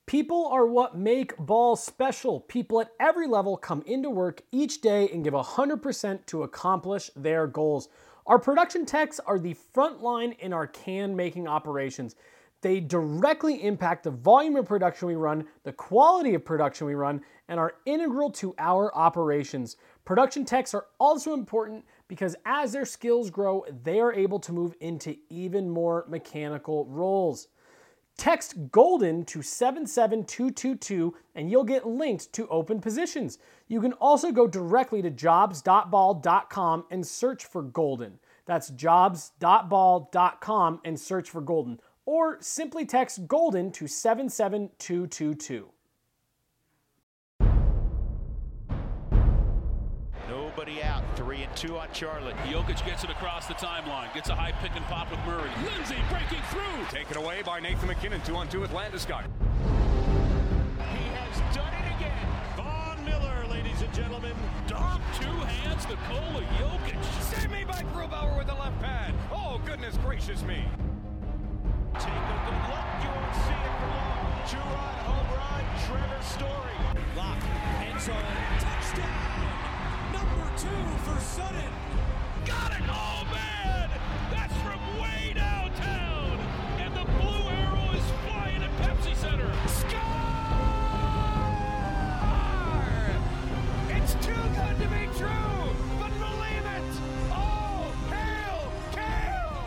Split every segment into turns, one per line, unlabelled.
People are what make ball special. People at every level come into work each day and give 100% to accomplish their goals. Our production techs are the front line in our can making operations. They directly impact the volume of production we run, the quality of production we run, and are integral to our operations. Production techs are also important because as their skills grow, they are able to move into even more mechanical roles. Text GOLDEN to 77222 and you'll get linked to open positions. You can also go directly to jobs.ball.com and search for Golden. That's jobs.ball.com and search for Golden. Or simply text GOLDEN to 77222.
Nobody out. 3-2 on Charlotte.
Jokic gets it across the timeline. Gets a high pick and pop with Murray. Lindsay breaking through.
Taken away by Nathan McKinnon. 2-on-2 with Landeskog.
He has done it again.
Von Miller, ladies and gentlemen. Dunk, two hands, Nikola Jokic.
Save me by Grubauer with the left pad. Oh, goodness gracious me.
Take a good look. You won't see it for long. Two-run home run. Trevor Story.
Lock. End zone. Touchdown. Number 2 for Sutton.
Got it! Oh, man! That's from way downtown! And the blue arrow is flying at Pepsi Center.
Score! It's too good to be true, but believe it! Oh, hail, Kale!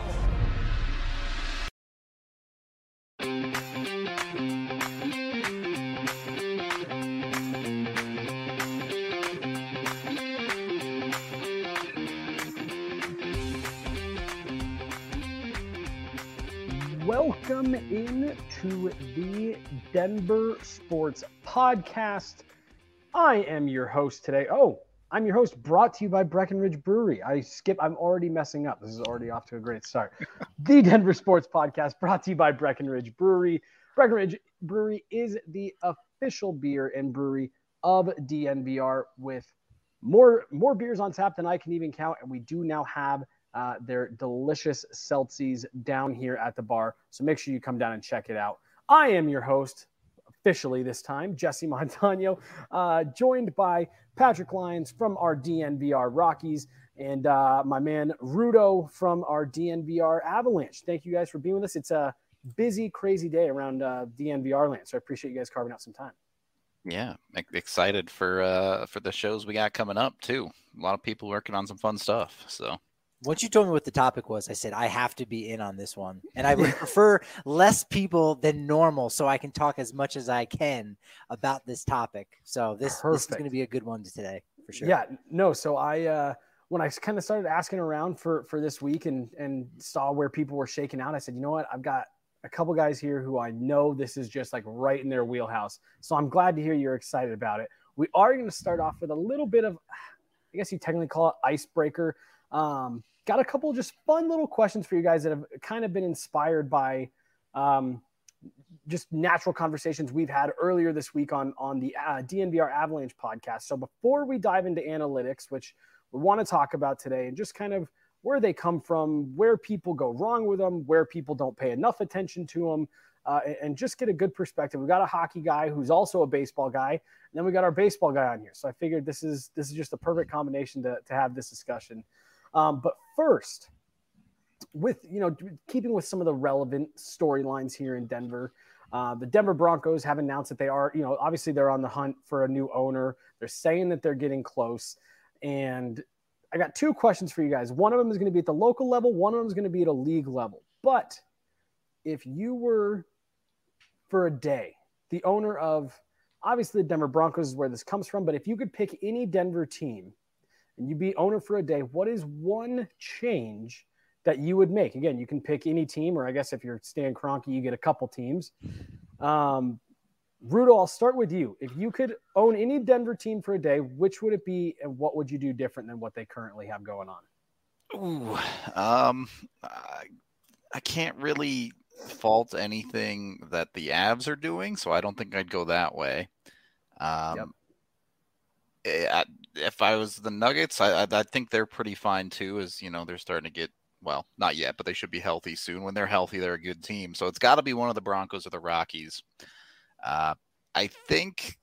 Welcome in to the Denver Sports Podcast. I am your host today. I'm your host, brought to you by Breckenridge Brewery. I'm already messing up. This is already off to a great start. The Denver Sports Podcast, brought to you by Breckenridge Brewery. Breckenridge Brewery is the official beer and brewery of DNVR, with more beers on tap than I can even count, and we do now have their delicious seltzies down here at the bar. So make sure you come down and check it out. I am your host, officially this time, Jesse Montano, joined by Patrick Lyons from our DNVR Rockies and my man Rudo from our DNVR Avalanche. Thank you guys for being with us. It's a busy, crazy day around DNVR land, so I appreciate you guys carving out some time.
Yeah, excited for the shows we got coming up too. A lot of people working on some fun stuff. So
once you told me what the topic was, I said, I have to be in on this one. And I would prefer less people than normal so I can talk as much as I can about this topic. So this is going to be a good one today for sure.
Yeah, no. So when I kind of started asking around for this week and saw where people were shaking out, I said, you know what? I've got a couple guys here who I know this is just like right in their wheelhouse. So I'm glad to hear you're excited about it. We are going to start off with a little bit of, I guess you technically call it icebreaker. Got a couple just fun little questions for you guys that have kind of been inspired by just natural conversations we've had earlier this week on the DNVR Avalanche podcast. So before we dive into analytics, which we want to talk about today, and just kind of where they come from, where people go wrong with them, where people don't pay enough attention to them, and just get a good perspective. We've got a hockey guy who's also a baseball guy, and then we got our baseball guy on here. So I figured this is just a perfect combination to have this discussion. But first, with keeping with some of the relevant storylines here in Denver, the Denver Broncos have announced that they are, obviously they're on the hunt for a new owner. They're saying that they're getting close. And I got two questions for you guys. One of them is going to be at the local level. One of them is going to be at a league level. But if you were, for a day, the owner of, obviously the Denver Broncos is where this comes from, but if you could pick any Denver team and you be owner for a day, what is one change that you would make? Again, you can pick any team, or I guess if you're Stan Kroenke, you get a couple teams. Rudo, I'll start with you. If you could own any Denver team for a day, which would it be, and what would you do different than what they currently have going on?
Ooh, I can't really fault anything that the Avs are doing, so I don't think I'd go that way. If I was the Nuggets, I think they're pretty fine too, as they're starting to get, well, not yet, but they should be healthy soon. When they're healthy, they're a good team. So it's got to be one of the Broncos or the Rockies. I think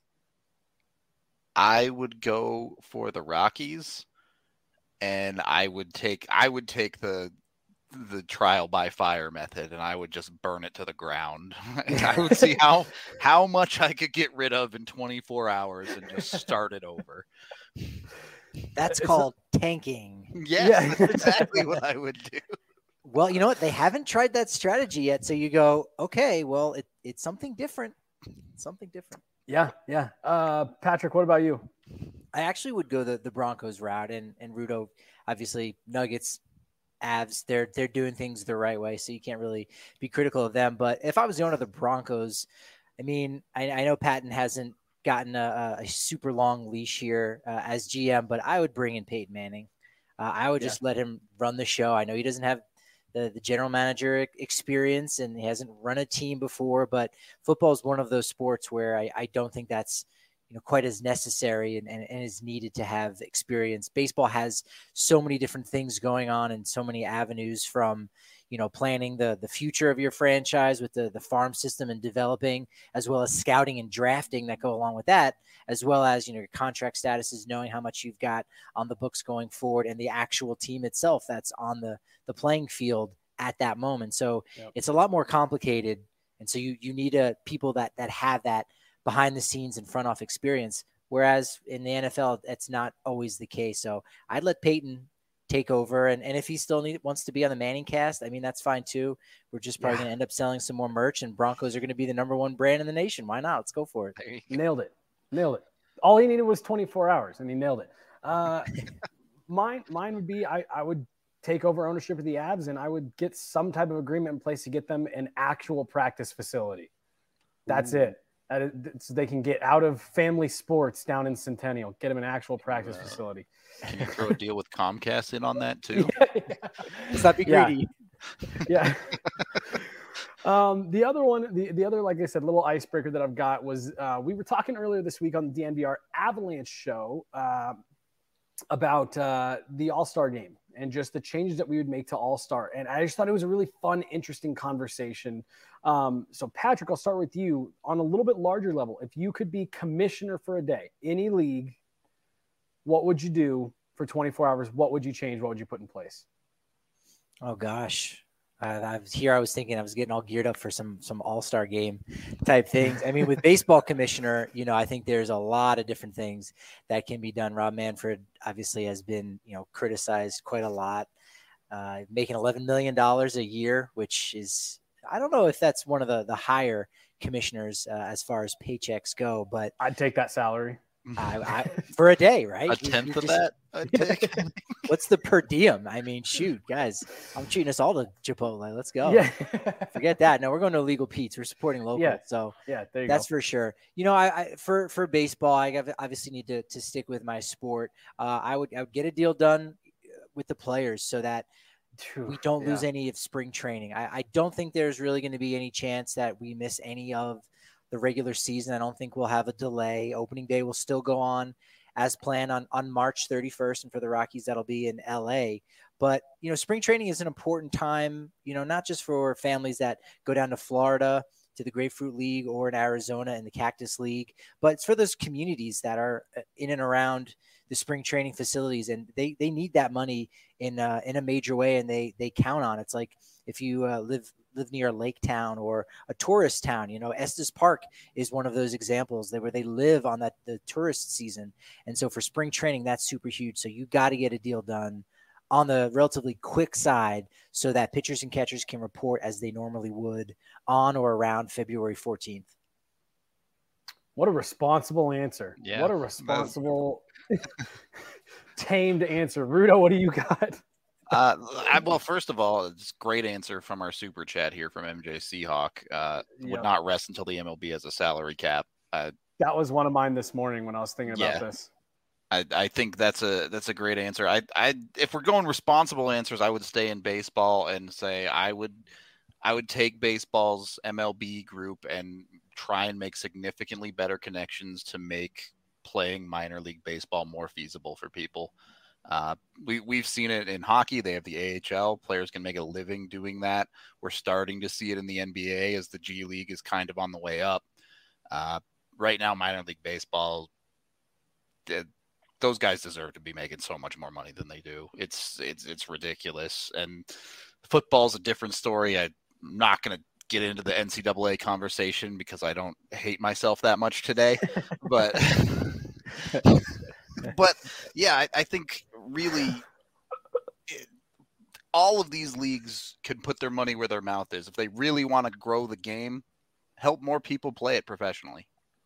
I would go for the Rockies, and I would take the trial by fire method, and I would just burn it to the ground. I would see how much I could get rid of in 24 hours and just start it over.
That's called tanking.
Yes, that's exactly what I would do.
Well, you know what? They haven't tried that strategy yet. So you go, okay, well, it's something different. Something different.
Yeah. Patrick, what about you?
I actually would go the Broncos route, and Rudo, obviously Nuggets, Avs, they're doing things the right way, so you can't really be critical of them. But if I was the owner of the Broncos, I mean, I know Patton hasn't gotten a super long leash here as GM, but I would bring in Peyton Manning. I would just let him run the show. I know he doesn't have the general manager experience, and he hasn't run a team before, but football is one of those sports where I don't think that's quite as necessary and is needed to have experience. Baseball has so many different things going on and so many avenues, from planning the future of your franchise with the farm system and developing, as well as scouting and drafting that go along with that, as well as your contract statuses, knowing how much you've got on the books going forward, and the actual team itself that's on the playing field at that moment. So It's a lot more complicated, and so you need people that have that behind the scenes and front off experience, whereas in the NFL that's not always the case. So I'd let Peyton take over, and if he still wants to be on the Manning cast, I mean, that's fine too. We're just probably going to end up selling some more merch, and Broncos are going to be the number one brand in the nation. Why not? Let's go for it.
Nailed it. All he needed was 24 hours, and he nailed it. Mine would be I would take over ownership of the Avs, and I would get some type of agreement in place to get them an actual practice facility. That's it. So they can get out of family sports down in Centennial, get them an actual practice facility.
Can you throw a deal with Comcast in on that too?
Let's not be greedy.
Yeah. The other one, the other, like I said, little icebreaker that I've got was we were talking earlier this week on the DNVR Avalanche show about the All-Star game and just the changes that we would make to All-Star. And I just thought it was a really fun, interesting conversation. So Patrick, I'll start with you on a little bit larger level. If you could be commissioner for a day, any league, what would you do for 24 hours? What would you change? What would you put in place?
Oh gosh. I was thinking I was getting all geared up for some All-Star game type things. I mean, with baseball commissioner, I think there's a lot of different things that can be done. Rob Manfred obviously has been, criticized quite a lot, making $11 million a year, which is, I don't know if that's one of the higher commissioners as far as paychecks go, but
I'd take that salary.
I for a day, right?
A tenth of that? I'd take.
What's the per diem? I mean, shoot, guys, I'm treating us all to Chipotle. Let's go.
Yeah.
Forget that. No, we're going to Illegal Pete's. We're supporting local.
Yeah.
So
yeah, there you
that's
go.
for sure. I for baseball, I obviously need to stick with my sport. I would get a deal done with the players so that we don't lose any of spring training. I don't think there's really going to be any chance that we miss any of the regular season. I don't think we'll have a delay. Opening day will still go on as planned on March 31st. And for the Rockies, that'll be in LA. But, spring training is an important time, not just for families that go down to Florida to the Grapefruit League or in Arizona in the Cactus League, but it's for those communities that are in and around the spring training facilities. And they need that money in a major way. And they count on it. It's like if you live near a lake town or a tourist town, Estes Park is one of those examples where they live on the tourist season. And so for spring training, that's super huge. So you got to get a deal done on the relatively quick side so that pitchers and catchers can report as they normally would on or around February 14th.
What a responsible answer.
Yeah.
What a responsible, tamed answer. Rudo, what do you got?
Well, first of all, it's a great answer from our super chat here from MJ Seahawk. Would not rest until the MLB has a salary cap.
That was one of mine this morning when I was thinking about this.
I think that's a great answer. If we're going responsible answers, I would stay in baseball and say I would take baseball's MLB group and try and make significantly better connections to make playing minor league baseball more feasible for people. We've seen it in hockey. They have the AHL. Players can make a living doing that. We're starting to see it in the NBA as the G League is kind of on the way up. Right now, minor league baseball, those guys deserve to be making so much more money than they do. It's ridiculous. And football's a different story. I'm not going to get into the NCAA conversation because I don't hate myself that much today. But yeah, I think really all of these leagues can put their money where their mouth is. If they really want to grow the game, help more people play it professionally.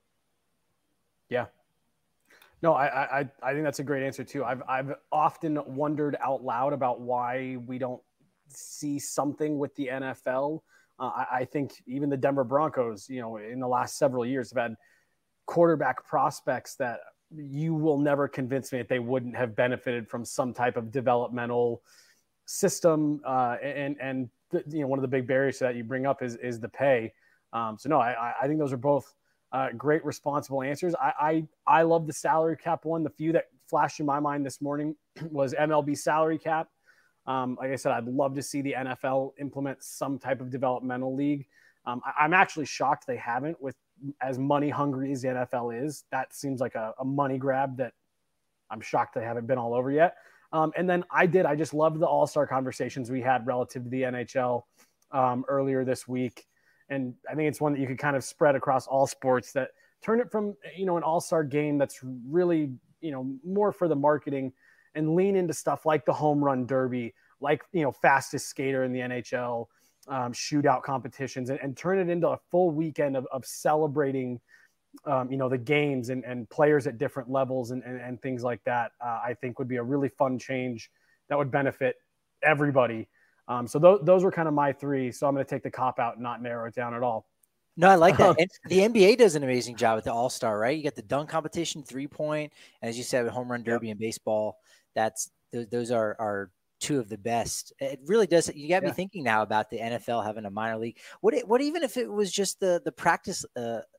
Yeah. No, I think that's a great answer too. I've often wondered out loud about why we don't see something with the NFL. I think even the Denver Broncos, in the last several years have had quarterback prospects that you will never convince me that they wouldn't have benefited from some type of developmental system. And one of the big barriers to that you bring up is the pay. So no, I think those are both great, responsible answers. I love the salary cap one. The few that flashed in my mind this morning was MLB salary cap. Like I said, I'd love to see the NFL implement some type of developmental league. I'm actually shocked they haven't, with as money hungry as the NFL is. That seems like a money grab that I'm shocked they haven't been all over yet. And then I just loved the all-star conversations we had relative to the NHL earlier this week. And I think it's one that you could kind of spread across all sports, that turn it from, an all-star game that's really, more for the marketing, and lean into stuff like the home run derby, like, fastest skater in the NHL, shootout competitions, and turn it into a full weekend of celebrating, the games and players at different levels and things like that. I think would be a really fun change that would benefit everybody. So those were kind of my three. So I'm going to take the cop out and not narrow it down at all.
No, I like that. And the NBA does an amazing job with the All-Star, right? You got the dunk competition, 3-point, and as you said, home run derby and baseball. Those are two of the best. It really does. You got me thinking now about the NFL having a minor league. What even if it was just the practice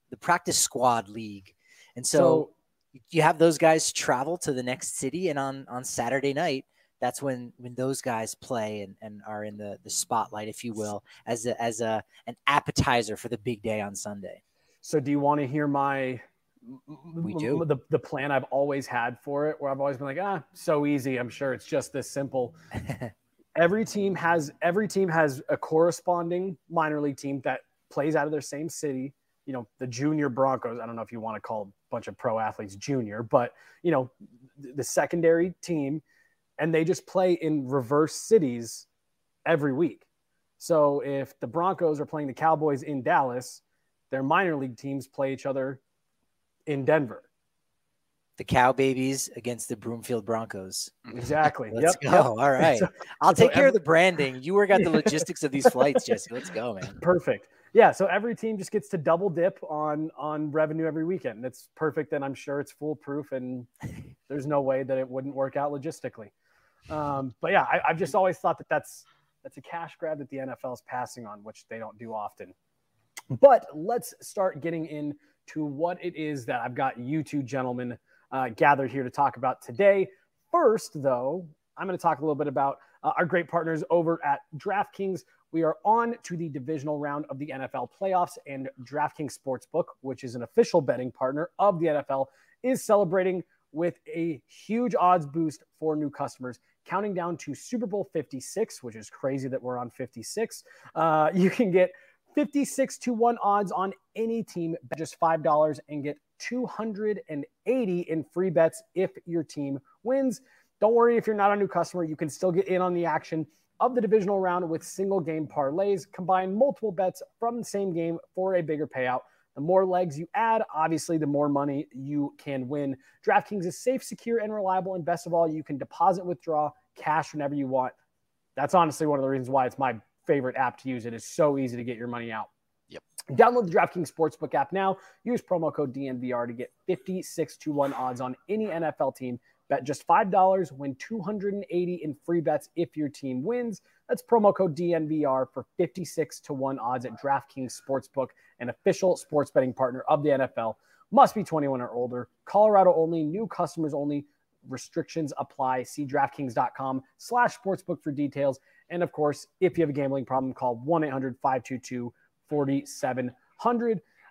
squad league? And so you have those guys travel to the next city, and on Saturday night, that's when those guys play and are in the spotlight, if you will, as an appetizer for the big day on Sunday.
So do you want to hear
We do.
The plan I've always had for it, where I've always been like, so easy. I'm sure it's just this simple. Every team has a corresponding minor league team that plays out of their same city. The junior Broncos, I don't know if you want to call a bunch of pro athletes junior, but the secondary team, and they just play in reverse cities every week. So if the Broncos are playing the Cowboys in Dallas, their minor league teams play each other in Denver.
The Cow Babies against the Broomfield Broncos.
Exactly.
Let's go. Yep. All right. I'll take care of the branding. You work out the logistics of these flights, Jesse. Let's go, man.
Perfect. Yeah. So every team just gets to double dip on revenue every weekend. That's perfect. And I'm sure it's foolproof, and there's no way that it wouldn't work out logistically. But yeah, I've just always thought that's a cash grab that the NFL is passing on, which they don't do often. But let's start getting into what it is that I've got you two gentlemen gathered here to talk about today. First, though, I'm going to talk a little bit about our great partners over at DraftKings. We are on to the divisional round of the NFL playoffs, and DraftKings Sportsbook, which is an official betting partner of the NFL, is celebrating with a huge odds boost for new customers, counting down to Super Bowl 56, which is crazy that we're on 56. You can get 56-1 odds on any team, bet just $5 and get $280 in free bets if your team wins. Don't worry if you're not a new customer, you can still get in on the action of the divisional round with single game parlays. Combine multiple bets from the same game for a bigger payout. The more legs you add, obviously, the more money you can win. DraftKings is safe, secure, and reliable. And best of all, you can deposit, withdraw cash whenever you want. That's honestly one of the reasons why it's my favorite app to use. It is so easy to get your money out.
Yep.
Download the DraftKings Sportsbook app now. Use promo code DNVR to get 56-1 odds on any NFL team. Bet just $5, win $280 in free bets if your team wins. That's promo code DNVR for 56-1 odds at DraftKings Sportsbook, an official sports betting partner of the NFL. Must be 21 or older. Colorado only. New customers only. Restrictions apply. See DraftKings.com/sportsbook for details. And of course, if you have a gambling problem, call 1-800-522-4700.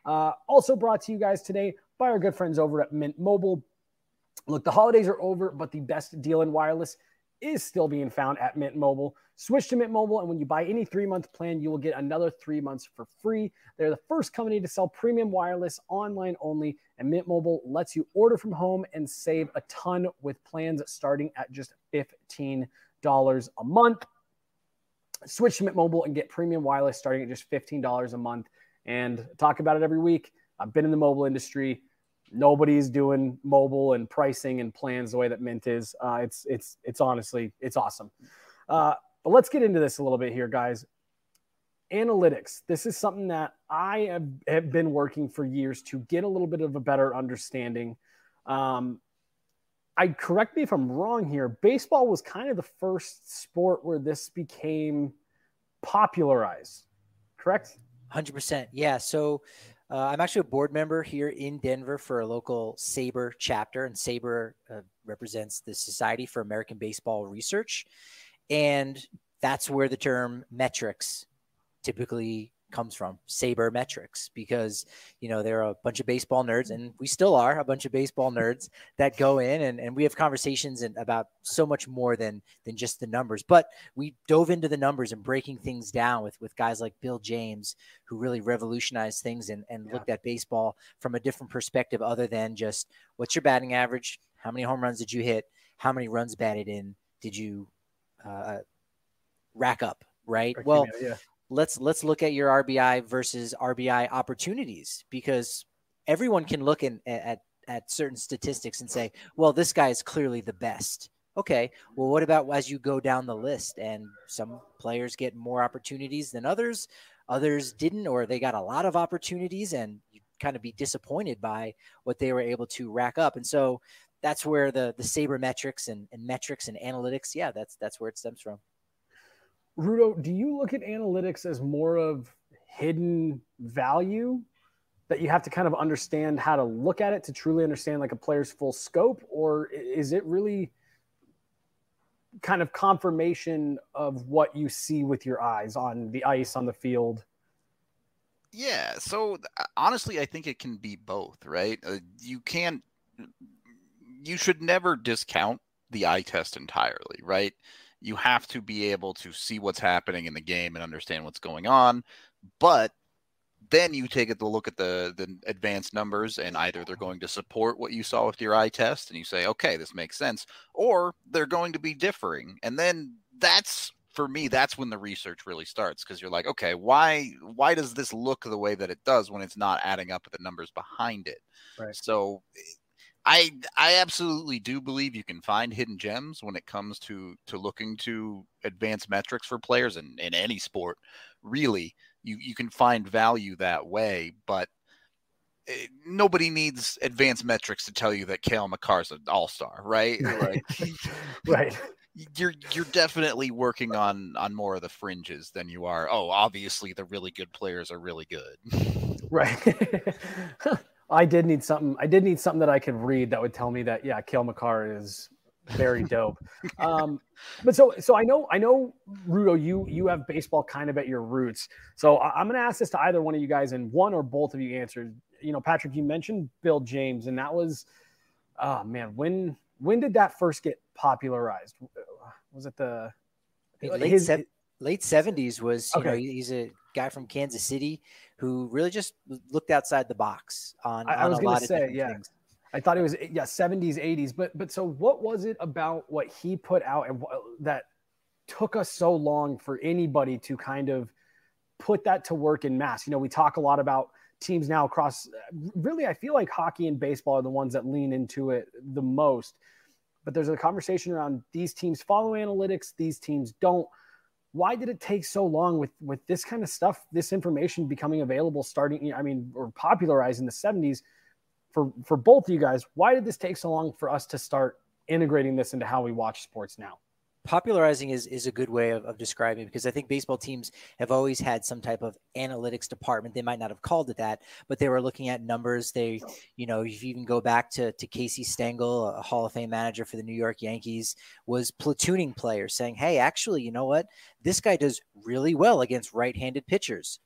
Also brought to you guys today by our good friends over at Mint Mobile. Look, the holidays are over, but the best deal in wireless is still being found at Mint Mobile. Switch to Mint Mobile, and when you buy any 3-month plan, you will get another 3 months for free. They're the first company to sell premium wireless online only, and Mint Mobile lets you order from home and save a ton with plans starting at just $15 a month. Switch to Mint Mobile and get premium wireless starting at just $15 a month. And talk about it every week. I've been in the mobile industry. Nobody's doing mobile and pricing and plans the way that Mint is. It's honestly, it's awesome. But let's get into this a little bit here, guys. Analytics. This is something that I have been working for years to get a little bit of a better understanding. Correct me if I'm wrong here. Baseball was kind of the first sport where this became popularized, correct?
100%. Yeah. So I'm actually a board member here in Denver for a local SABR chapter, and SABR represents the Society for American Baseball Research. And that's where the term metrics typically comes from, SABR metrics, because, you know, there are a bunch of baseball nerds, and we still are a bunch of baseball nerds that go in and we have conversations about so much more than just the numbers. But we dove into the numbers and breaking things down with guys like Bill James, who really revolutionized things and looked at baseball from a different perspective other than just what's your batting average, how many home runs did you hit, how many runs batted in did you rack up, right? Well, let's look at your RBI versus RBI opportunities, because everyone can look at certain statistics and say, well, this guy is clearly the best. Okay, well, what about as you go down the list and some players get more opportunities than others didn't, or they got a lot of opportunities and you kind of be disappointed by what they were able to rack up. And so that's where the SABR metrics and metrics and analytics, that's where it stems from.
Rudo, do you look at analytics as more of hidden value that you have to kind of understand how to look at it to truly understand like a player's full scope? Or is it really kind of confirmation of what you see with your eyes on the ice, on the field?
Yeah. So honestly, I think it can be both, right? You should never discount the eye test entirely, right? You have to be able to see what's happening in the game and understand what's going on. But then you take a look at the advanced numbers, and either they're going to support what you saw with your eye test and you say, okay, this makes sense, or they're going to be differing. And then for me, that's when the research really starts, because you're like, okay, why does this look the way that it does when it's not adding up with the numbers behind it?
Right.
So I absolutely do believe you can find hidden gems when it comes to looking to advanced metrics for players in any sport. Really, you can find value that way, but nobody needs advanced metrics to tell you that Cale Makar's an all-star, right? Like,
right.
You're definitely working on more of the fringes than you are. Oh, obviously the really good players are really good.
Right. I did need something that I could read that would tell me that, yeah, Cale Makar is very dope. But so I know, Rudo, you have baseball kind of at your roots. So I'm going to ask this to either one of you guys, and one or both of you answered. You know, Patrick, you mentioned Bill James, and that was, oh man, when did that first get popularized? Was it
late 70s was,
okay.
You know, he's a guy from Kansas City who really just looked outside the box on
I was
a lot
of say,
things.
I thought it was 70s, 80s, but so what was it about what he put out and that took us so long for anybody to kind of put that to work in mass? You know, we talk a lot about teams now across, really, I feel like hockey and baseball are the ones that lean into it the most, but there's a conversation around these teams follow analytics, these teams don't. Why did it take so long with this kind of stuff, this information becoming available starting, or popularized in the 70s for both of you guys? Why did this take so long for us to start integrating this into how we watch sports now?
Popularizing is a good way of describing it, because I think baseball teams have always had some type of analytics department. They might not have called it that, but they were looking at numbers. If you even go back to Casey Stengel, a Hall of Fame manager for the New York Yankees, was platooning players saying, hey, actually, you know what? This guy does really well against right-handed pitchers.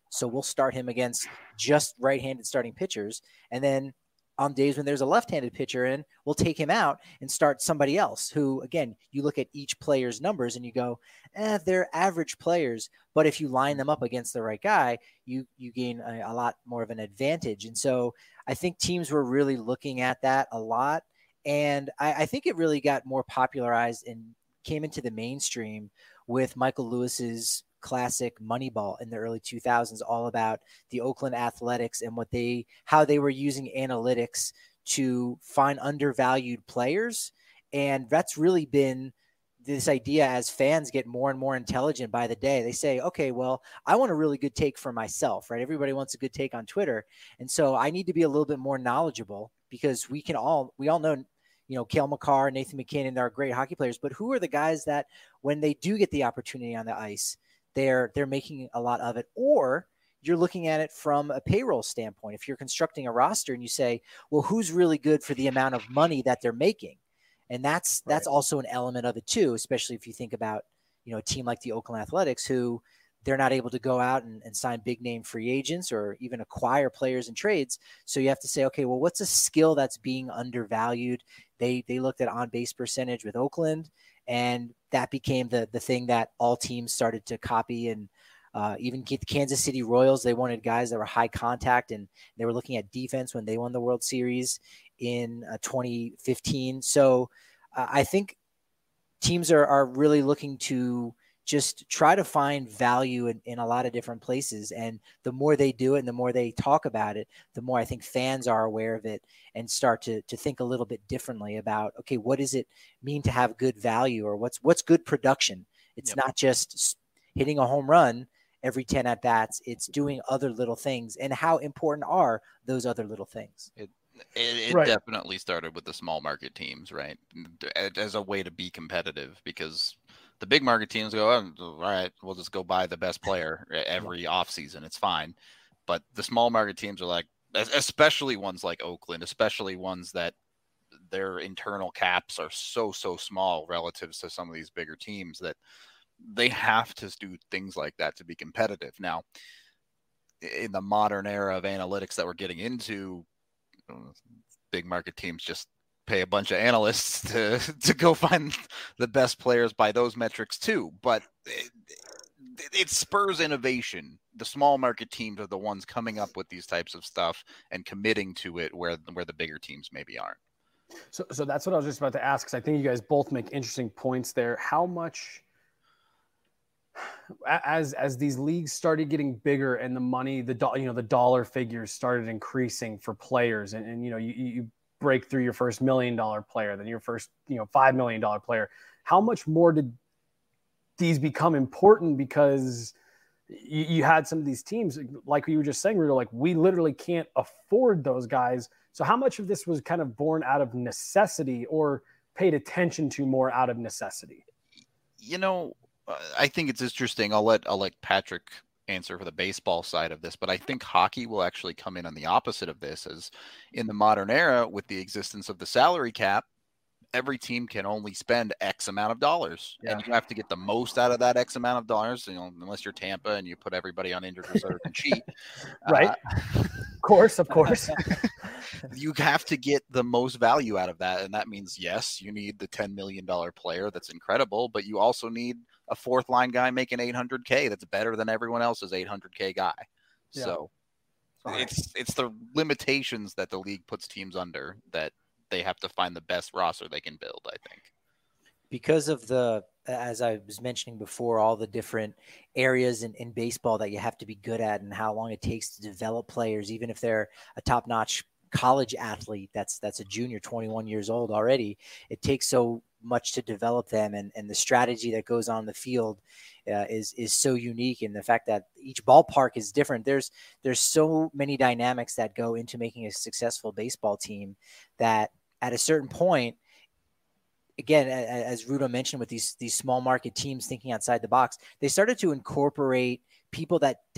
So we'll start him against just right-handed starting pitchers. And then on days when there's a left-handed pitcher in, we'll take him out and start somebody else who, again, you look at each player's numbers and you go, they're average players. But if you line them up against the right guy, you gain a lot more of an advantage. And so I think teams were really looking at that a lot. And I think it really got more popularized and came into the mainstream with Michael Lewis's classic Moneyball in the early 2000s, all about the Oakland Athletics and how they were using analytics to find undervalued players. And that's really been this idea as fans get more and more intelligent by the day. They say, okay, well, I want a really good take for myself, right? Everybody wants a good take on Twitter. And so I need to be a little bit more knowledgeable because we all know, Cale Makar, Nathan McKinnon, they're great hockey players, but who are the guys that when they do get the opportunity on the ice, they're making a lot of it? Or you're looking at it from a payroll standpoint. If you're constructing a roster and you say, well, who's really good for the amount of money that they're making? And that's also an element of it too, especially if you think about, a team like the Oakland Athletics, who they're not able to go out and sign big name free agents or even acquire players and trades. So you have to say, okay, well, what's a skill that's being undervalued? They looked at on-base percentage with Oakland, and that became the thing that all teams started to copy. And even the Kansas City Royals, they wanted guys that were high contact, and they were looking at defense when they won the World Series in 2015. So I think teams are really looking to just try to find value in a lot of different places. And the more they do it and the more they talk about it, the more I think fans are aware of it and start to think a little bit differently about, okay, what does it mean to have good value, or what's good production? It's not just hitting a home run every 10 at bats. It's doing other little things. And how important are those other little things?
It
Right.
definitely started with the small market teams, right? As a way to be competitive, because the big market teams go, oh, all right, we'll just go buy the best player every offseason. It's fine. But the small market teams are like, especially ones like Oakland, especially ones that their internal caps are so small relative to some of these bigger teams, that they have to do things like that to be competitive. Now, in the modern era of analytics that we're getting into, big market teams just pay a bunch of analysts to go find the best players by those metrics too. But it spurs innovation. The small market teams are the ones coming up with these types of stuff and committing to it where the bigger teams maybe aren't.
So that's what I was just about to ask, because I think you guys both make interesting points there. How much, as these leagues started getting bigger and the money, the dollar figures started increasing for players, and you break through your first $1 million player, then your first $5 million player, how much more did these become important? Because you had some of these teams, like you were just saying, Rudo, like, we literally can't afford those guys. So how much of this was kind of born out of necessity or paid attention to more out of necessity?
I think it's interesting. I'll let Patrick answer for the baseball side of this, but I think hockey will actually come in on the opposite of this. As in the modern era, with the existence of the salary cap, every team can only spend X amount of dollars, and you have to get the most out of that X amount of dollars. Unless you're Tampa and you put everybody on injured reserve and cheat,
right? Of course.
You have to get the most value out of that, and that means, yes, you need the $10 million player that's incredible, but you also need a fourth line guy making $800K that's better than everyone else's $800K guy. Yeah. So it's the limitations that the league puts teams under, that they have to find the best roster they can build, I think.
Because of as I was mentioning before, all the different areas in baseball that you have to be good at, and how long it takes to develop players, even if they're a top-notch college athlete that's a junior, 21 years old already. It takes so much to develop them, and the strategy that goes on the field is so unique. And the fact that each ballpark is different, there's so many dynamics that go into making a successful baseball team, that at a certain point, again, as Rudo mentioned, with these small market teams thinking outside the box, they started to incorporate people that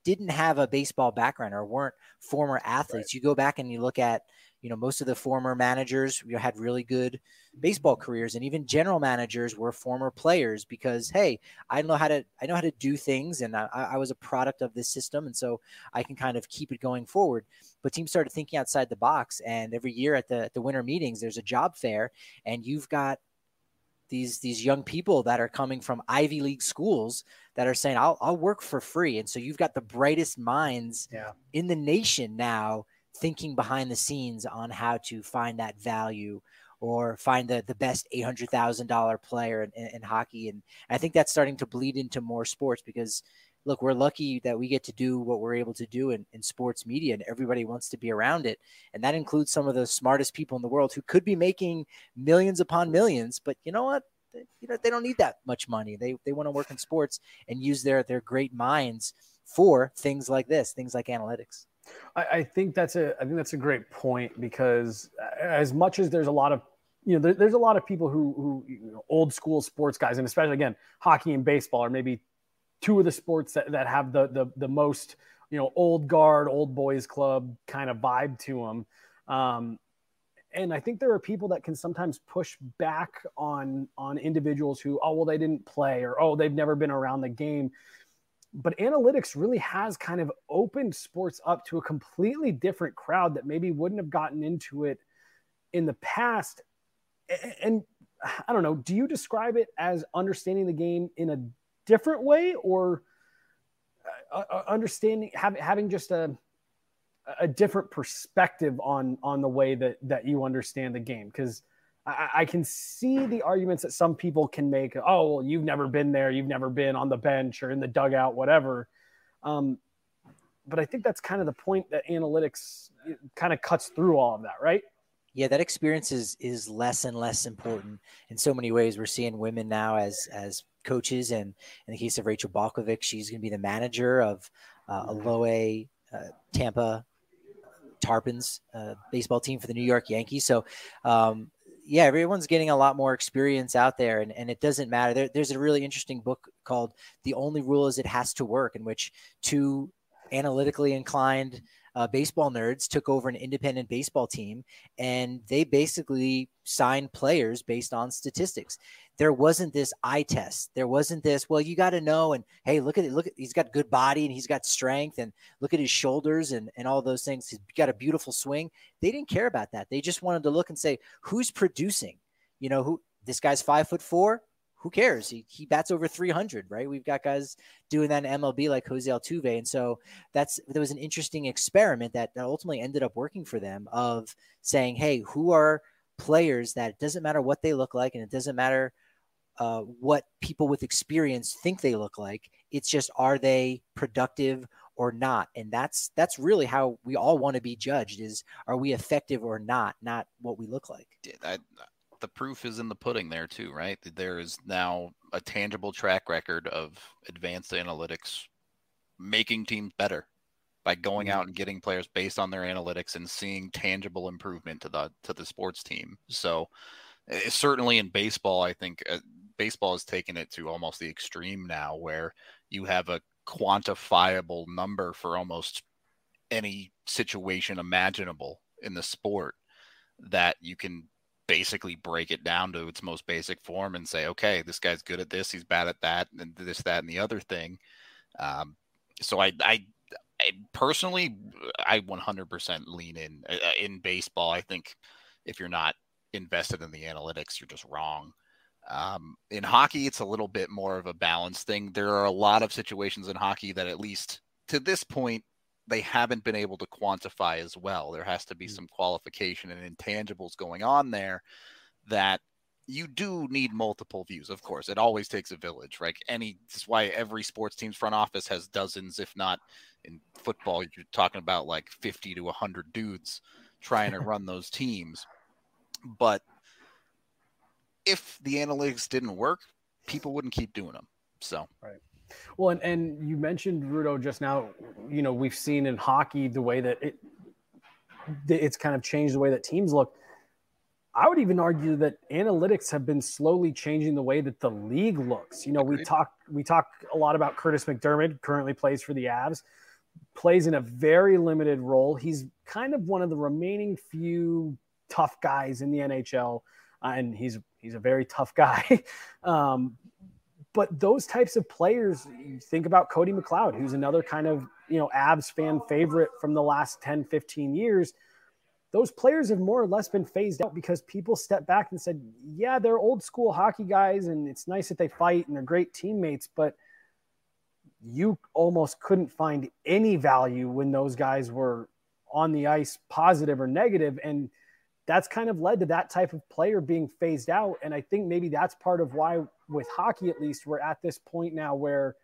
didn't have a baseball background or weren't former athletes. Right. You go back and you look at, most of the former managers had really good baseball careers, and even general managers were former players because, hey, I know how to do things, and I was a product of this system, and so I can kind of keep it going forward. But teams started thinking outside the box, and every year at the winter meetings, there's a job fair, and you've got these young people that are coming from Ivy League schools that are saying, I'll work for free. And so you've got the brightest minds in the nation now thinking behind the scenes on how to find that value or find the best $800,000 player in hockey. And I think that's starting to bleed into more sports because, look, we're lucky that we get to do what we're able to do in sports media, and everybody wants to be around it. And that includes some of the smartest people in the world who could be making millions upon millions, but you know what? They don't need that much money. They want to work in sports and use their great minds for things like this, things like analytics.
I think that's a great point because as much as there's a lot of, there's a lot of people who old school sports guys, and especially again, hockey and baseball are maybe two of the sports that have the most, old guard, old boys club kind of vibe to them. And I think there are people that can sometimes push back on individuals who, they didn't play or, they've never been around the game. But analytics really has kind of opened sports up to a completely different crowd that maybe wouldn't have gotten into it in the past. And I don't know, do you describe it as understanding the game in a different way or understanding, having just a different perspective on the way that you understand the game? Because I can see the arguments that some people can make. Oh, well, you've never been there. You've never been on the bench or in the dugout, whatever. But I think that's kind of the point that analytics kind of cuts through all of that, right?
Yeah, that experience is less and less important in so many ways. We're seeing women now as coaches, and in the case of Rachel Balkovec, she's going to be the manager of Aloe Tampa Tarpons baseball team for the New York Yankees. So, everyone's getting a lot more experience out there, and it doesn't matter. There's a really interesting book called The Only Rule Is It Has to Work, in which two analytically inclined baseball nerds took over an independent baseball team, and they basically signed players based on statistics. There wasn't this eye test. There wasn't this, well, you got to know, and hey, look at he's got good body and he's got strength, and look at his shoulders and all those things. He's got a beautiful swing. They didn't care about that. They just wanted to look and say, who's producing? Who this guy's 5'4"? Who cares? He bats over 300, right? We've got guys doing that in MLB like Jose Altuve. And so there was an interesting experiment that ultimately ended up working for them of saying, hey, who are players that it doesn't matter what they look like, and it doesn't matter what people with experience think they look like. It's just, are they productive or not? And that's really how we all want to be judged, is are we effective or not what we look like.
The proof is in the pudding there too, right? There is now a tangible track record of advanced analytics making teams better by going out and getting players based on their analytics and seeing tangible improvement to the sports team. So certainly in baseball, I think baseball has taken it to almost the extreme now, where you have a quantifiable number for almost any situation imaginable in the sport that you can basically break it down to its most basic form and say, okay, this guy's good at this, he's bad at that, and this, that, and the other thing. So I personally, I 100% lean in baseball. I think if you're not invested in the analytics, you're just wrong. In hockey, it's a little bit more of a balanced thing. There are a lot of situations in hockey that, at least to this point, they haven't been able to quantify as well. There has to be some qualification and intangibles going on there that you do need multiple views. Of course, it always takes a village, right? That's why every sports team's front office has dozens, if not in football, you're talking about like 50 to 100 dudes trying to run those teams. But if the analytics didn't work, people wouldn't keep doing them. So,
right. Well, and you mentioned, Rudo, just now, we've seen in hockey the way that it's kind of changed the way that teams look. I would even argue that analytics have been slowly changing the way that the league looks. We talk a lot about Curtis McDermott, currently plays for the Avs, plays in a very limited role. He's kind of one of the remaining few tough guys in the NHL, and he's a very tough guy. But those types of players, you think about Cody McLeod, who's another kind of, Avs fan favorite from the last 10, 15 years. Those players have more or less been phased out because people stepped back and said, yeah, they're old school hockey guys, and it's nice that they fight and they're great teammates, but you almost couldn't find any value when those guys were on the ice, positive or negative. And that's kind of led to that type of player being phased out. And I think maybe that's part of why, with hockey at least, we're at this point now where,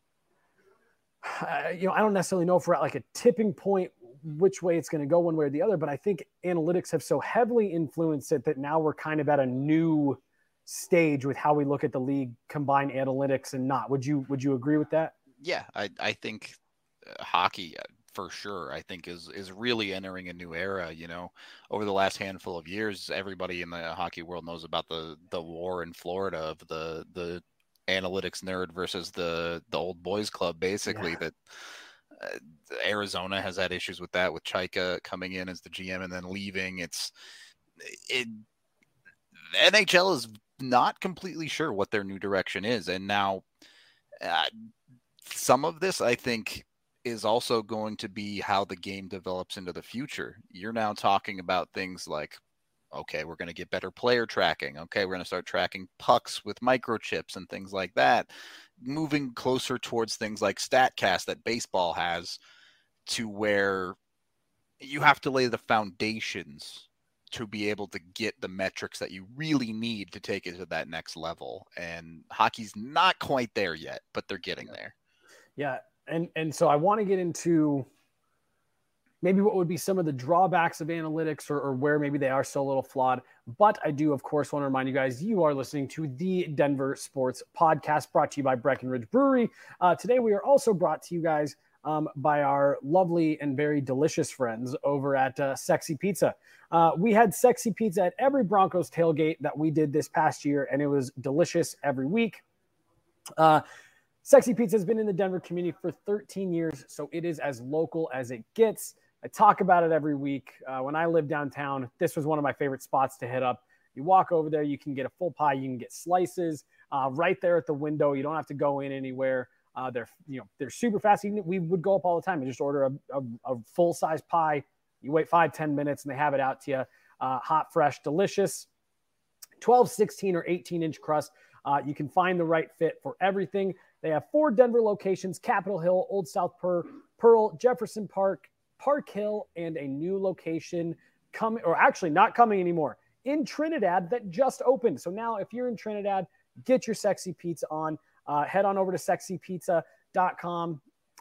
I don't necessarily know if we're at like a tipping point, which way it's going to go one way or the other, but I think analytics have so heavily influenced it that now we're kind of at a new stage with how we look at the league, combine analytics and not. Would you agree with that?
Yeah, I think hockey for sure, I think is really entering a new era. Over the last handful of years, everybody in the hockey world knows about the war in Florida of the analytics nerd versus the old boys club, basically. Yeah. That Arizona has had issues with that, with Chaika coming in as the GM and then leaving. NHL is not completely sure what their new direction is, and now some of this, I think, is also going to be how the game develops into the future. You're now talking about things like, okay, we're going to get better player tracking. Okay, we're going to start tracking pucks with microchips and things like that, moving closer towards things like StatCast that baseball has, to where you have to lay the foundations to be able to get the metrics that you really need to take it to that next level. And hockey's not quite there yet, but they're getting there.
Yeah. And so I want to get into maybe what would be some of the drawbacks of analytics, or where maybe they are still a little flawed. But I do, of course, want to remind you guys, you are listening to the Denver Sports Podcast, brought to you by Breckenridge Brewery. Today, we are also brought to you guys by our lovely and very delicious friends over at Sexy Pizza. We had Sexy Pizza at every Broncos tailgate that we did this past year, and it was delicious every week. Sexy Pizza has been in the Denver community for 13 years, so it is as local as it gets. I talk about it every week. When I lived downtown, this was one of my favorite spots to hit up. You walk over there, you can get a full pie, you can get slices right there at the window. You don't have to go in anywhere. They're super fast. We would go up all the time and just order a full-size pie. You wait 5-10 minutes and they have it out to you. Hot, fresh, delicious. 12, 16, or 18-inch crust. You can find the right fit for everything. They have 4 Denver locations: Capitol Hill, Old South Pearl, Jefferson Park, Park Hill, and a new location not coming anymore, in Trinidad, that just opened. So now if you're in Trinidad, get your Sexy Pizza on. Head on over to sexypizza.com.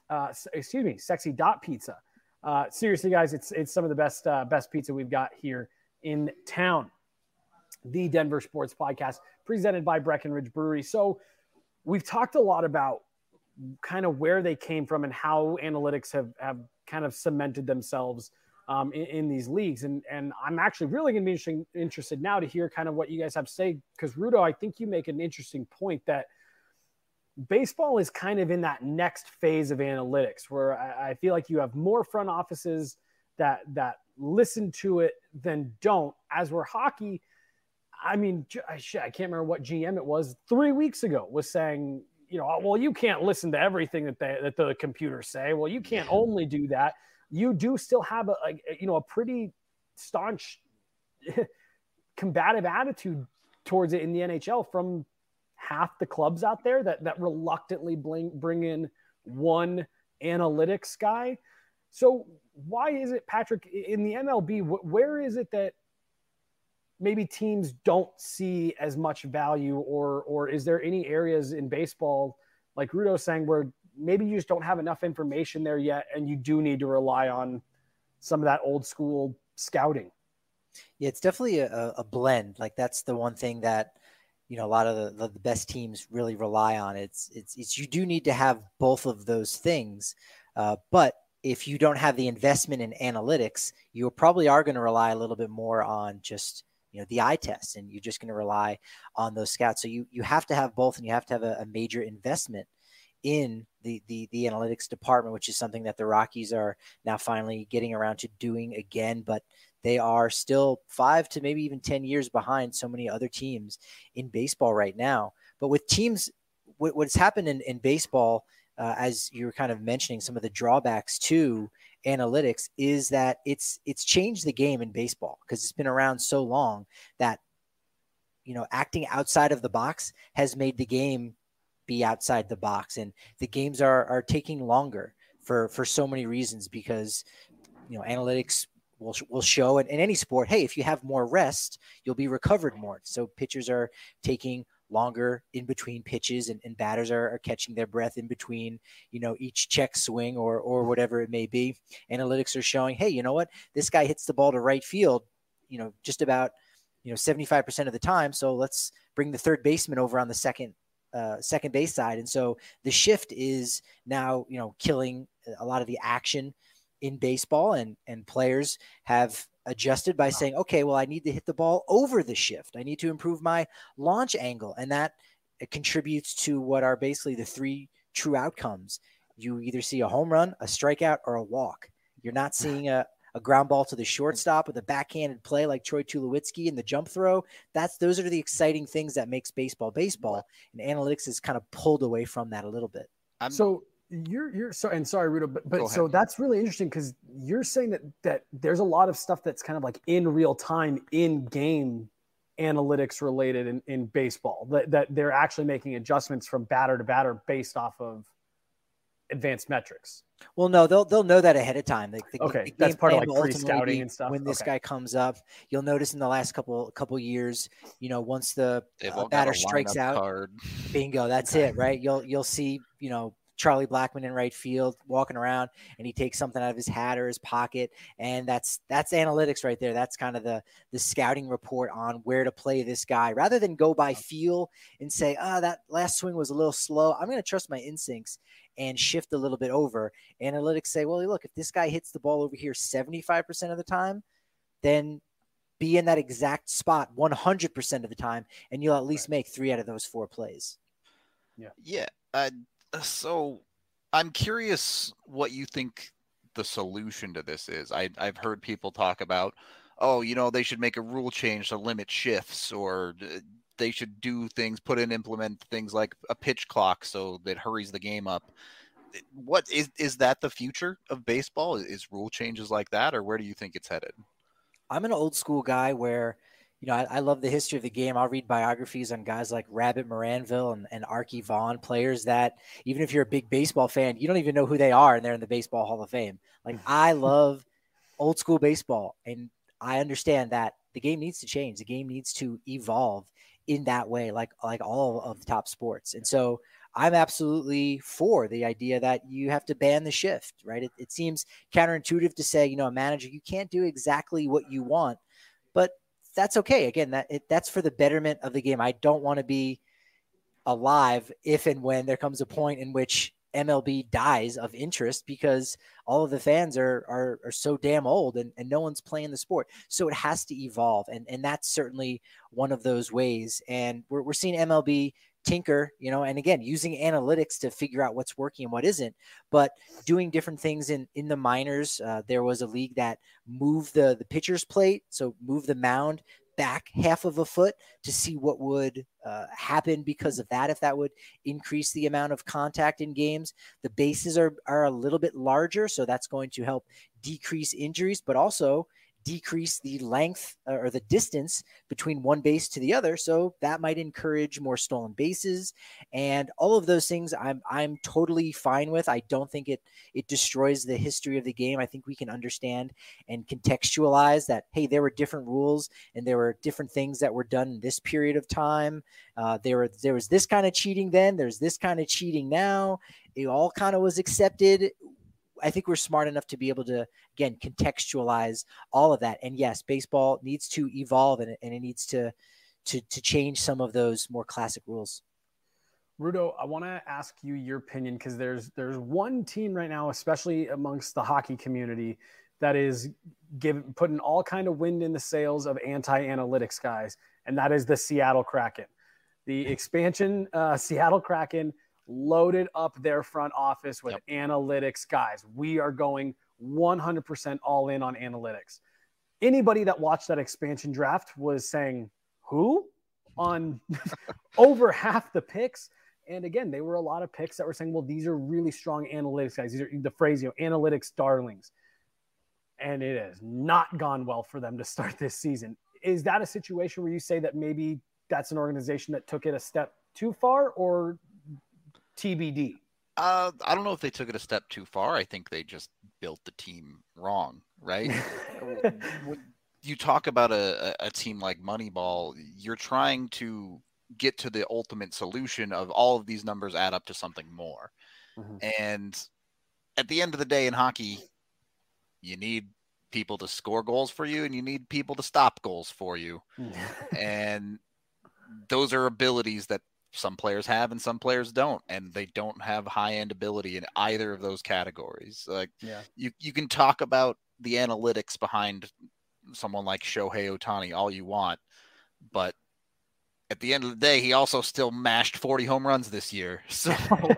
Sexy.pizza. Seriously, guys, it's some of the best pizza we've got here in town. The Denver Sports Podcast, presented by Breckenridge Brewery. So we've talked a lot about kind of where they came from and how analytics have kind of cemented themselves in these leagues. And I'm actually really going to be interested now to hear kind of what you guys have to say, because Rudo, I think you make an interesting point that baseball is kind of in that next phase of analytics, where I feel like you have more front offices that listen to it than don't, as where hockey, I mean, I can't remember what GM it was 3 weeks ago was saying, well, you can't listen to everything that the computers say. Well, you can't only do that. You do still have a pretty staunch combative attitude towards it in the NHL from half the clubs out there that reluctantly bring in one analytics guy. So why is it, Patrick, in the MLB, where is it that maybe teams don't see as much value, or is there any areas in baseball, like Rudo's saying, where maybe you just don't have enough information there yet and you do need to rely on some of that old school scouting?
Yeah, it's definitely a blend. Like, that's the one thing that, a lot of the best teams really rely on. It's you do need to have both of those things. But if you don't have the investment in analytics, you probably are going to rely a little bit more on just, the eye test, and you're just going to rely on those scouts. So you have to have both, and you have to have a major investment in the analytics department, which is something that the Rockies are now finally getting around to doing again. But they are still 5 to maybe even 10 years behind so many other teams in baseball right now. But with teams, what's happened in baseball, as you were kind of mentioning, some of the drawbacks to analytics is that it's changed the game in baseball because it's been around so long that, acting outside of the box has made the game be outside the box, and the games are taking longer for so many reasons because, analytics will show in any sport, hey, if you have more rest, you'll be recovered more. So pitchers are taking longer in between pitches and batters are catching their breath in between, each check swing or whatever it may be. Analytics are showing, hey, you know what? This guy hits the ball to right field, just about, 75% of the time. So let's bring the third baseman over on the second base side. And so the shift is now, killing a lot of the action in baseball, and players have adjusted by saying, okay, well, I need to hit the ball over the shift. I need to improve my launch angle. And that contributes to what are basically the 3 true outcomes. You either see a home run, a strikeout, or a walk. You're not seeing a ground ball to the shortstop with a backhanded play like Troy Tulowitzki in the jump throw. Those are the exciting things that makes baseball. And analytics is kind of pulled away from that a little bit.
So you're so, and sorry, Rudo, but so that's really interesting because you're saying that there's a lot of stuff that's kind of like in real time, in game analytics related in baseball, that they're actually making adjustments from batter to batter based off of advanced metrics.
Well, no, they'll know that ahead of time.
The that's part of like pre-scouting and stuff.
When this guy comes up, you'll notice in the last couple years, once the batter strikes out, bingo, that's it, right? You'll see, Charlie Blackmon in right field walking around and he takes something out of his hat or his pocket. And that's analytics right there. That's kind of the scouting report on where to play this guy rather than go by feel and say, that last swing was a little slow. I'm going to trust my instincts and shift a little bit over. Analytics say, well, look, if this guy hits the ball over here 75% of the time, then be in that exact spot 100% of the time. And you'll at least make 3 out of those 4 plays.
Yeah. So I'm curious what you think the solution to this is. I've heard people talk about, they should make a rule change to limit shifts, or they should implement things like a pitch clock so that hurries the game up. What is that the future of baseball? Is rule changes like that, or where do you think it's headed?
I'm an old school guy where, I love the history of the game. I'll read biographies on guys like Rabbit Moranville and Archie Vaughn, players that even if you're a big baseball fan, you don't even know who they are, and they're in the Baseball Hall of Fame. Like, I love old school baseball, and I understand that the game needs to change. The game needs to evolve in that way, like all of the top sports. And so I'm absolutely for the idea that you have to ban the shift, right? It seems counterintuitive to say, a manager, you can't do exactly what you want, but that's okay. Again, that's for the betterment of the game. I don't want to be alive if and when there comes a point in which MLB dies of interest because all of the fans are so damn old and no one's playing the sport. So it has to evolve. And that's certainly one of those ways. And we're seeing MLB tinker, and again, using analytics to figure out what's working and what isn't, but doing different things in the minors. There was a league that moved the pitcher's plate. So move the mound back half of a foot to see what would happen because of that, if that would increase the amount of contact in games. The bases are a little bit larger, so that's going to help decrease injuries, but also decrease the length or the distance between one base to the other. So that might encourage more stolen bases, and all of those things I'm totally fine with. I don't think it destroys the history of the game. I think we can understand and contextualize that, hey, there were different rules and there were different things that were done in this period of time. There was this kind of cheating then, there's this kind of cheating now. It all kind of was accepted. I think we're smart enough to be able to, again, contextualize all of that. And yes, baseball needs to evolve and it needs to change some of those more classic rules.
Rudo, I want to ask you your opinion because there's one team right now, especially amongst the hockey community, that is putting all kind of wind in the sails of anti-analytics guys, and that is the Seattle Kraken. The expansion Seattle Kraken loaded up their front office with analytics guys. We are going 100% all in on analytics. Anybody that watched that expansion draft was saying, who? On over half the picks. And again, they were a lot of picks that were saying, well, these are really strong analytics guys. These are the phrase, analytics darlings. And it has not gone well for them to start this season. Is that a situation where you say that maybe that's an organization that took it a step too far, or TBD?
I don't know if they took it a step too far. I think they just built the team wrong, right? When you talk about a team like Moneyball, you're trying to get to the ultimate solution of all of these numbers add up to something more. Mm-hmm. And at the end of the day in hockey, you need people to score goals for you and you need people to stop goals for you. And those are abilities that some players have and some players don't, and they don't have high-end ability in either of those categories. Like you can talk about the analytics behind someone like Shohei Ohtani all you want, but at the end of the day, he also still mashed 40 home runs this year. So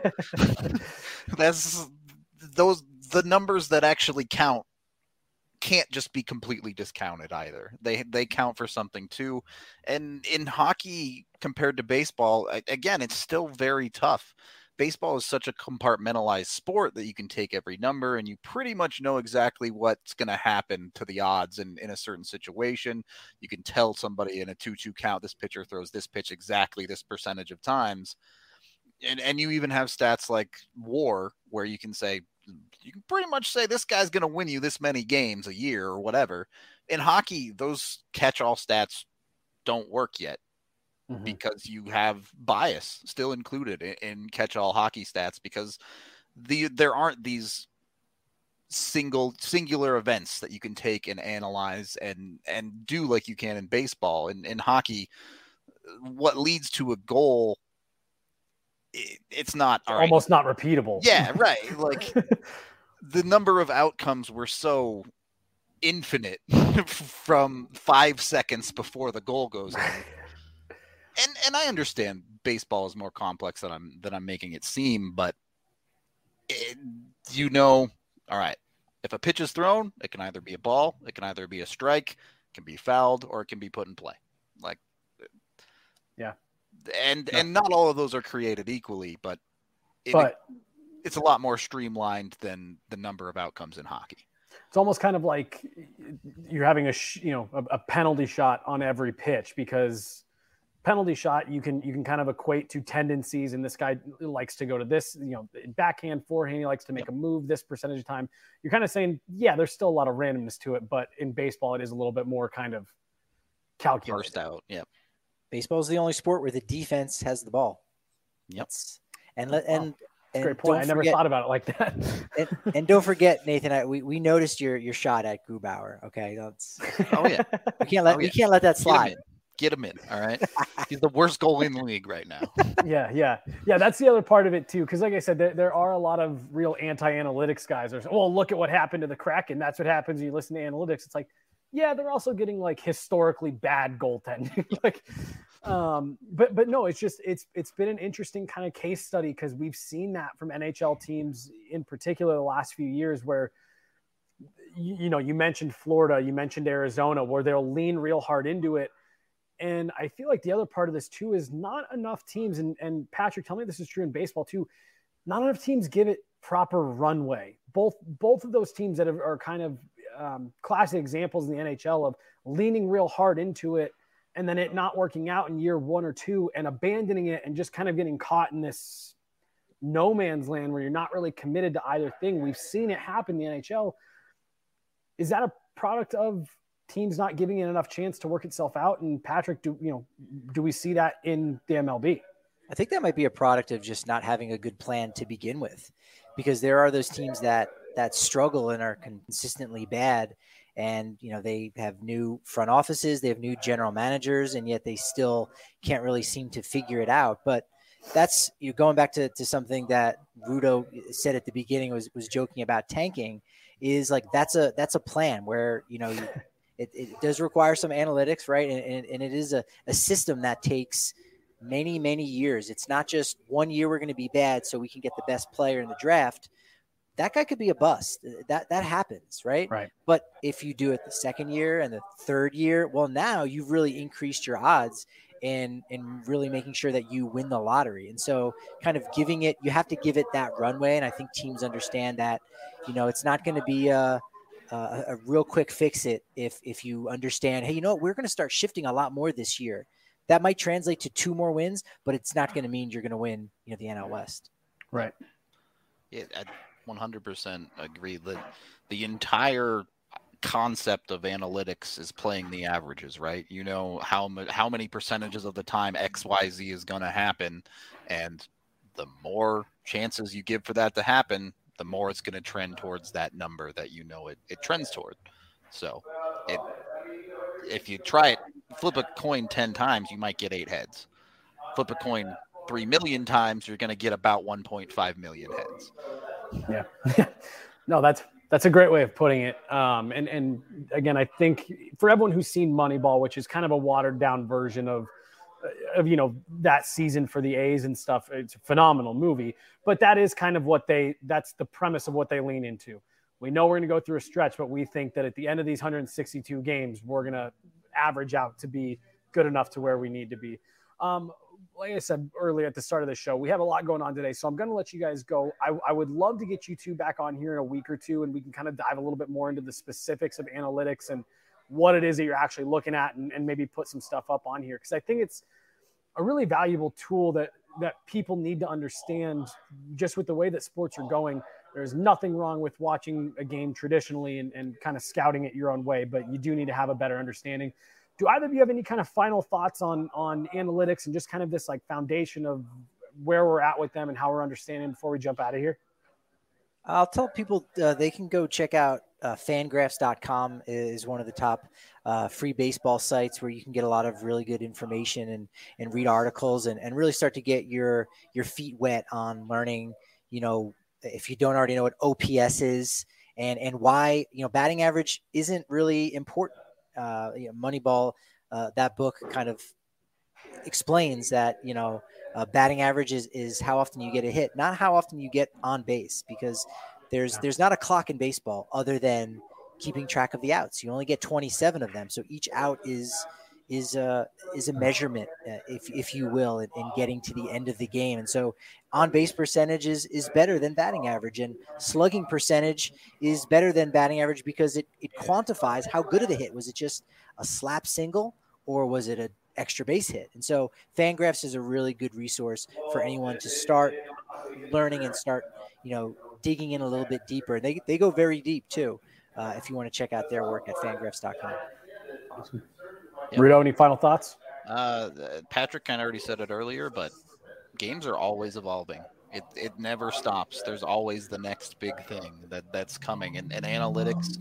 the numbers that actually count can't just be completely discounted either. They count for something too. And in hockey compared to baseball, again, it's still very tough. Baseball is such a compartmentalized sport that you can take every number and you pretty much know exactly what's going to happen to the odds in a certain situation. You can tell somebody in a 2-2 count, this pitcher throws this pitch exactly this percentage of times. And you even have stats like WAR where you can pretty much say this guy's going to win you this many games a year or whatever. In hockey, those catch-all stats don't work yet. Mm-hmm. Because you have bias still included in catch-all hockey stats, because there aren't these singular events that you can take and analyze and do like you can in baseball. In hockey, what leads to a goal, it's not
almost not repeatable.
Yeah, right. Like the number of outcomes were so infinite from 5 seconds before the goal goes in. And I understand baseball is more complex than I'm making it seem, but all right, if a pitch is thrown, it can either be a ball, it can either be a strike, it can be fouled, or it can be put in play. Like,
yeah.
And not all of those are created equally, but it's a lot more streamlined than the number of outcomes in hockey.
It's almost kind of like you're having a penalty shot on every pitch, because penalty shot you can kind of equate to tendencies, and this guy likes to go to this, backhand, forehand, he likes to make a move this percentage of time. You're kind of saying, yeah, there's still a lot of randomness to it, but in baseball it is a little bit more kind of calculated.
Burst out. Yeah.
Baseball is the only sport where the defense has the ball.
Yep.
And
great point. I never thought about it like that.
and don't forget, Nathan, we noticed your shot at Grubauer. Okay, we can't let that slide.
Get him in. All right. He's the worst goalie in the league right now.
Yeah. That's the other part of it too. Cause like I said, there are a lot of real anti-analytics guys. Look at what happened to the Kraken. That's what happens when you listen to analytics. It's like, yeah, they're also getting like historically bad goaltending. But no, it's been an interesting kind of case study, because we've seen that from NHL teams in particular the last few years, where you mentioned Florida, you mentioned Arizona, where they'll lean real hard into it. And I feel like the other part of this too is not enough teams, and Patrick, tell me this is true in baseball too, not enough teams give it proper runway. Both of those teams that are kind of classic examples in the NHL of leaning real hard into it and then it not working out in year 1 or 2 and abandoning it and just kind of getting caught in this no man's land where you're not really committed to either thing. We've seen it happen in the NHL. Is that a product of teams not giving it enough chance to work itself out? And Patrick, do we see that in the MLB?
I think that might be a product of just not having a good plan to begin with, because there are those teams that struggle and are consistently bad. And, they have new front offices, they have new general managers, and yet they still can't really seem to figure it out. But that's going back to something that Rudo said at the beginning, was joking about tanking, is like, that's a plan where, it does require some analytics, right? And it is a system that takes many, many years. It's not just 1 year we're going to be bad so we can get the best player in the draft. That guy could be a bust. That happens, right?
Right.
But if you do it the second year and the third year, well, now you've really increased your odds and really making sure that you win the lottery. And so kind of you have to give it that runway. And I think teams understand that, it's not going to be a real quick fix it if you understand, hey, we're going to start shifting a lot more this year. That might translate to 2 more wins, but it's not going to mean you're going to win, the NL West.
Right.
Yeah, I 100% agree that the entire concept of analytics is playing the averages, right? How many percentages of the time XYZ is going to happen, and the more chances you give for that to happen, the more it's going to trend towards that number that it trends toward. So if you try it, flip a coin 10 times, you might get 8 heads. Flip a coin 3 million times, you're going to get about 1.5 million heads.
Yeah. No, that's a great way of putting it. And again, I think for everyone who's seen Moneyball, which is kind of a watered down version of that season for the A's and stuff, it's a phenomenal movie, but that is kind of that's the premise of what they lean into. We know we're going to go through a stretch, but we think that at the end of these 162 games, we're going to average out to be good enough to where we need to be. Like I said earlier at the start of the show, we have a lot going on today, so I'm going to let you guys go. I would love to get you two back on here in a week or two, and we can kind of dive a little bit more into the specifics of analytics and what it is that you're actually looking at, and maybe put some stuff up on here, because I think it's a really valuable tool that people need to understand. Just with the way that sports are going, there's nothing wrong with watching a game traditionally and kind of scouting it your own way, but you do need to have a better understanding. Do either of you have any kind of final thoughts on analytics and just kind of this like foundation of where we're at with them and how we're understanding before we jump out of here?
I'll tell people they can go check out Fangraphs.com is one of the top free baseball sites where you can get a lot of really good information and read articles and really start to get your feet wet on learning, if you don't already know what OPS is and why, batting average isn't really important. Moneyball, that book kind of explains that, batting average is how often you get a hit, not how often you get on base, because there's not a clock in baseball other than keeping track of the outs. You only get 27 of them. So each out is a measurement, if you will, in getting to the end of the game. And so on base percentage is better than batting average, and slugging percentage is better than batting average because it quantifies how good of the hit. Was it just a slap single or was it an extra base hit? And so Fangraphs is a really good resource for anyone to start learning and start, digging in a little bit deeper. They go very deep too. If you want to check out their work at Fangraphs.com.
Awesome. Yep. Rudo, any final thoughts?
Patrick kind of already said it earlier, but games are always evolving. It never stops. There's always the next big thing that's coming, and analytics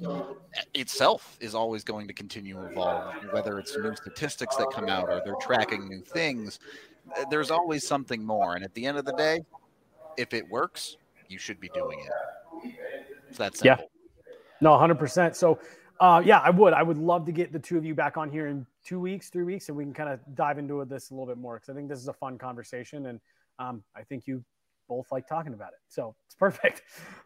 itself is always going to continue to evolve. Whether it's new statistics that come out or they're tracking new things, there's always something more. And at the end of the day, if it works, you should be doing it. It's that simple.
Yeah. No, 100%. So, I would love to get the two of you back on here in 2 weeks, 3 weeks, and we can kind of dive into this a little bit more, because I think this is a fun conversation, and I think you both like talking about it. So it's perfect.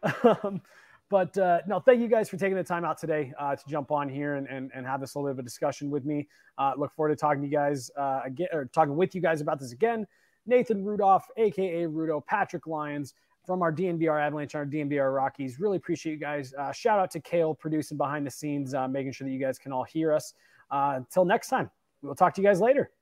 But no, thank you guys for taking the time out today to jump on here and have this little bit of a discussion with me. Look forward to talking to you guys again, or talking with you guys about this again. Nathan Rudolph, aka Rudo, Patrick Lyons, from our DNVR Avalanche and our DNVR Rockies. Really appreciate you guys. Shout out to Kale producing behind the scenes, making sure that you guys can all hear us. Until next time, we'll talk to you guys later.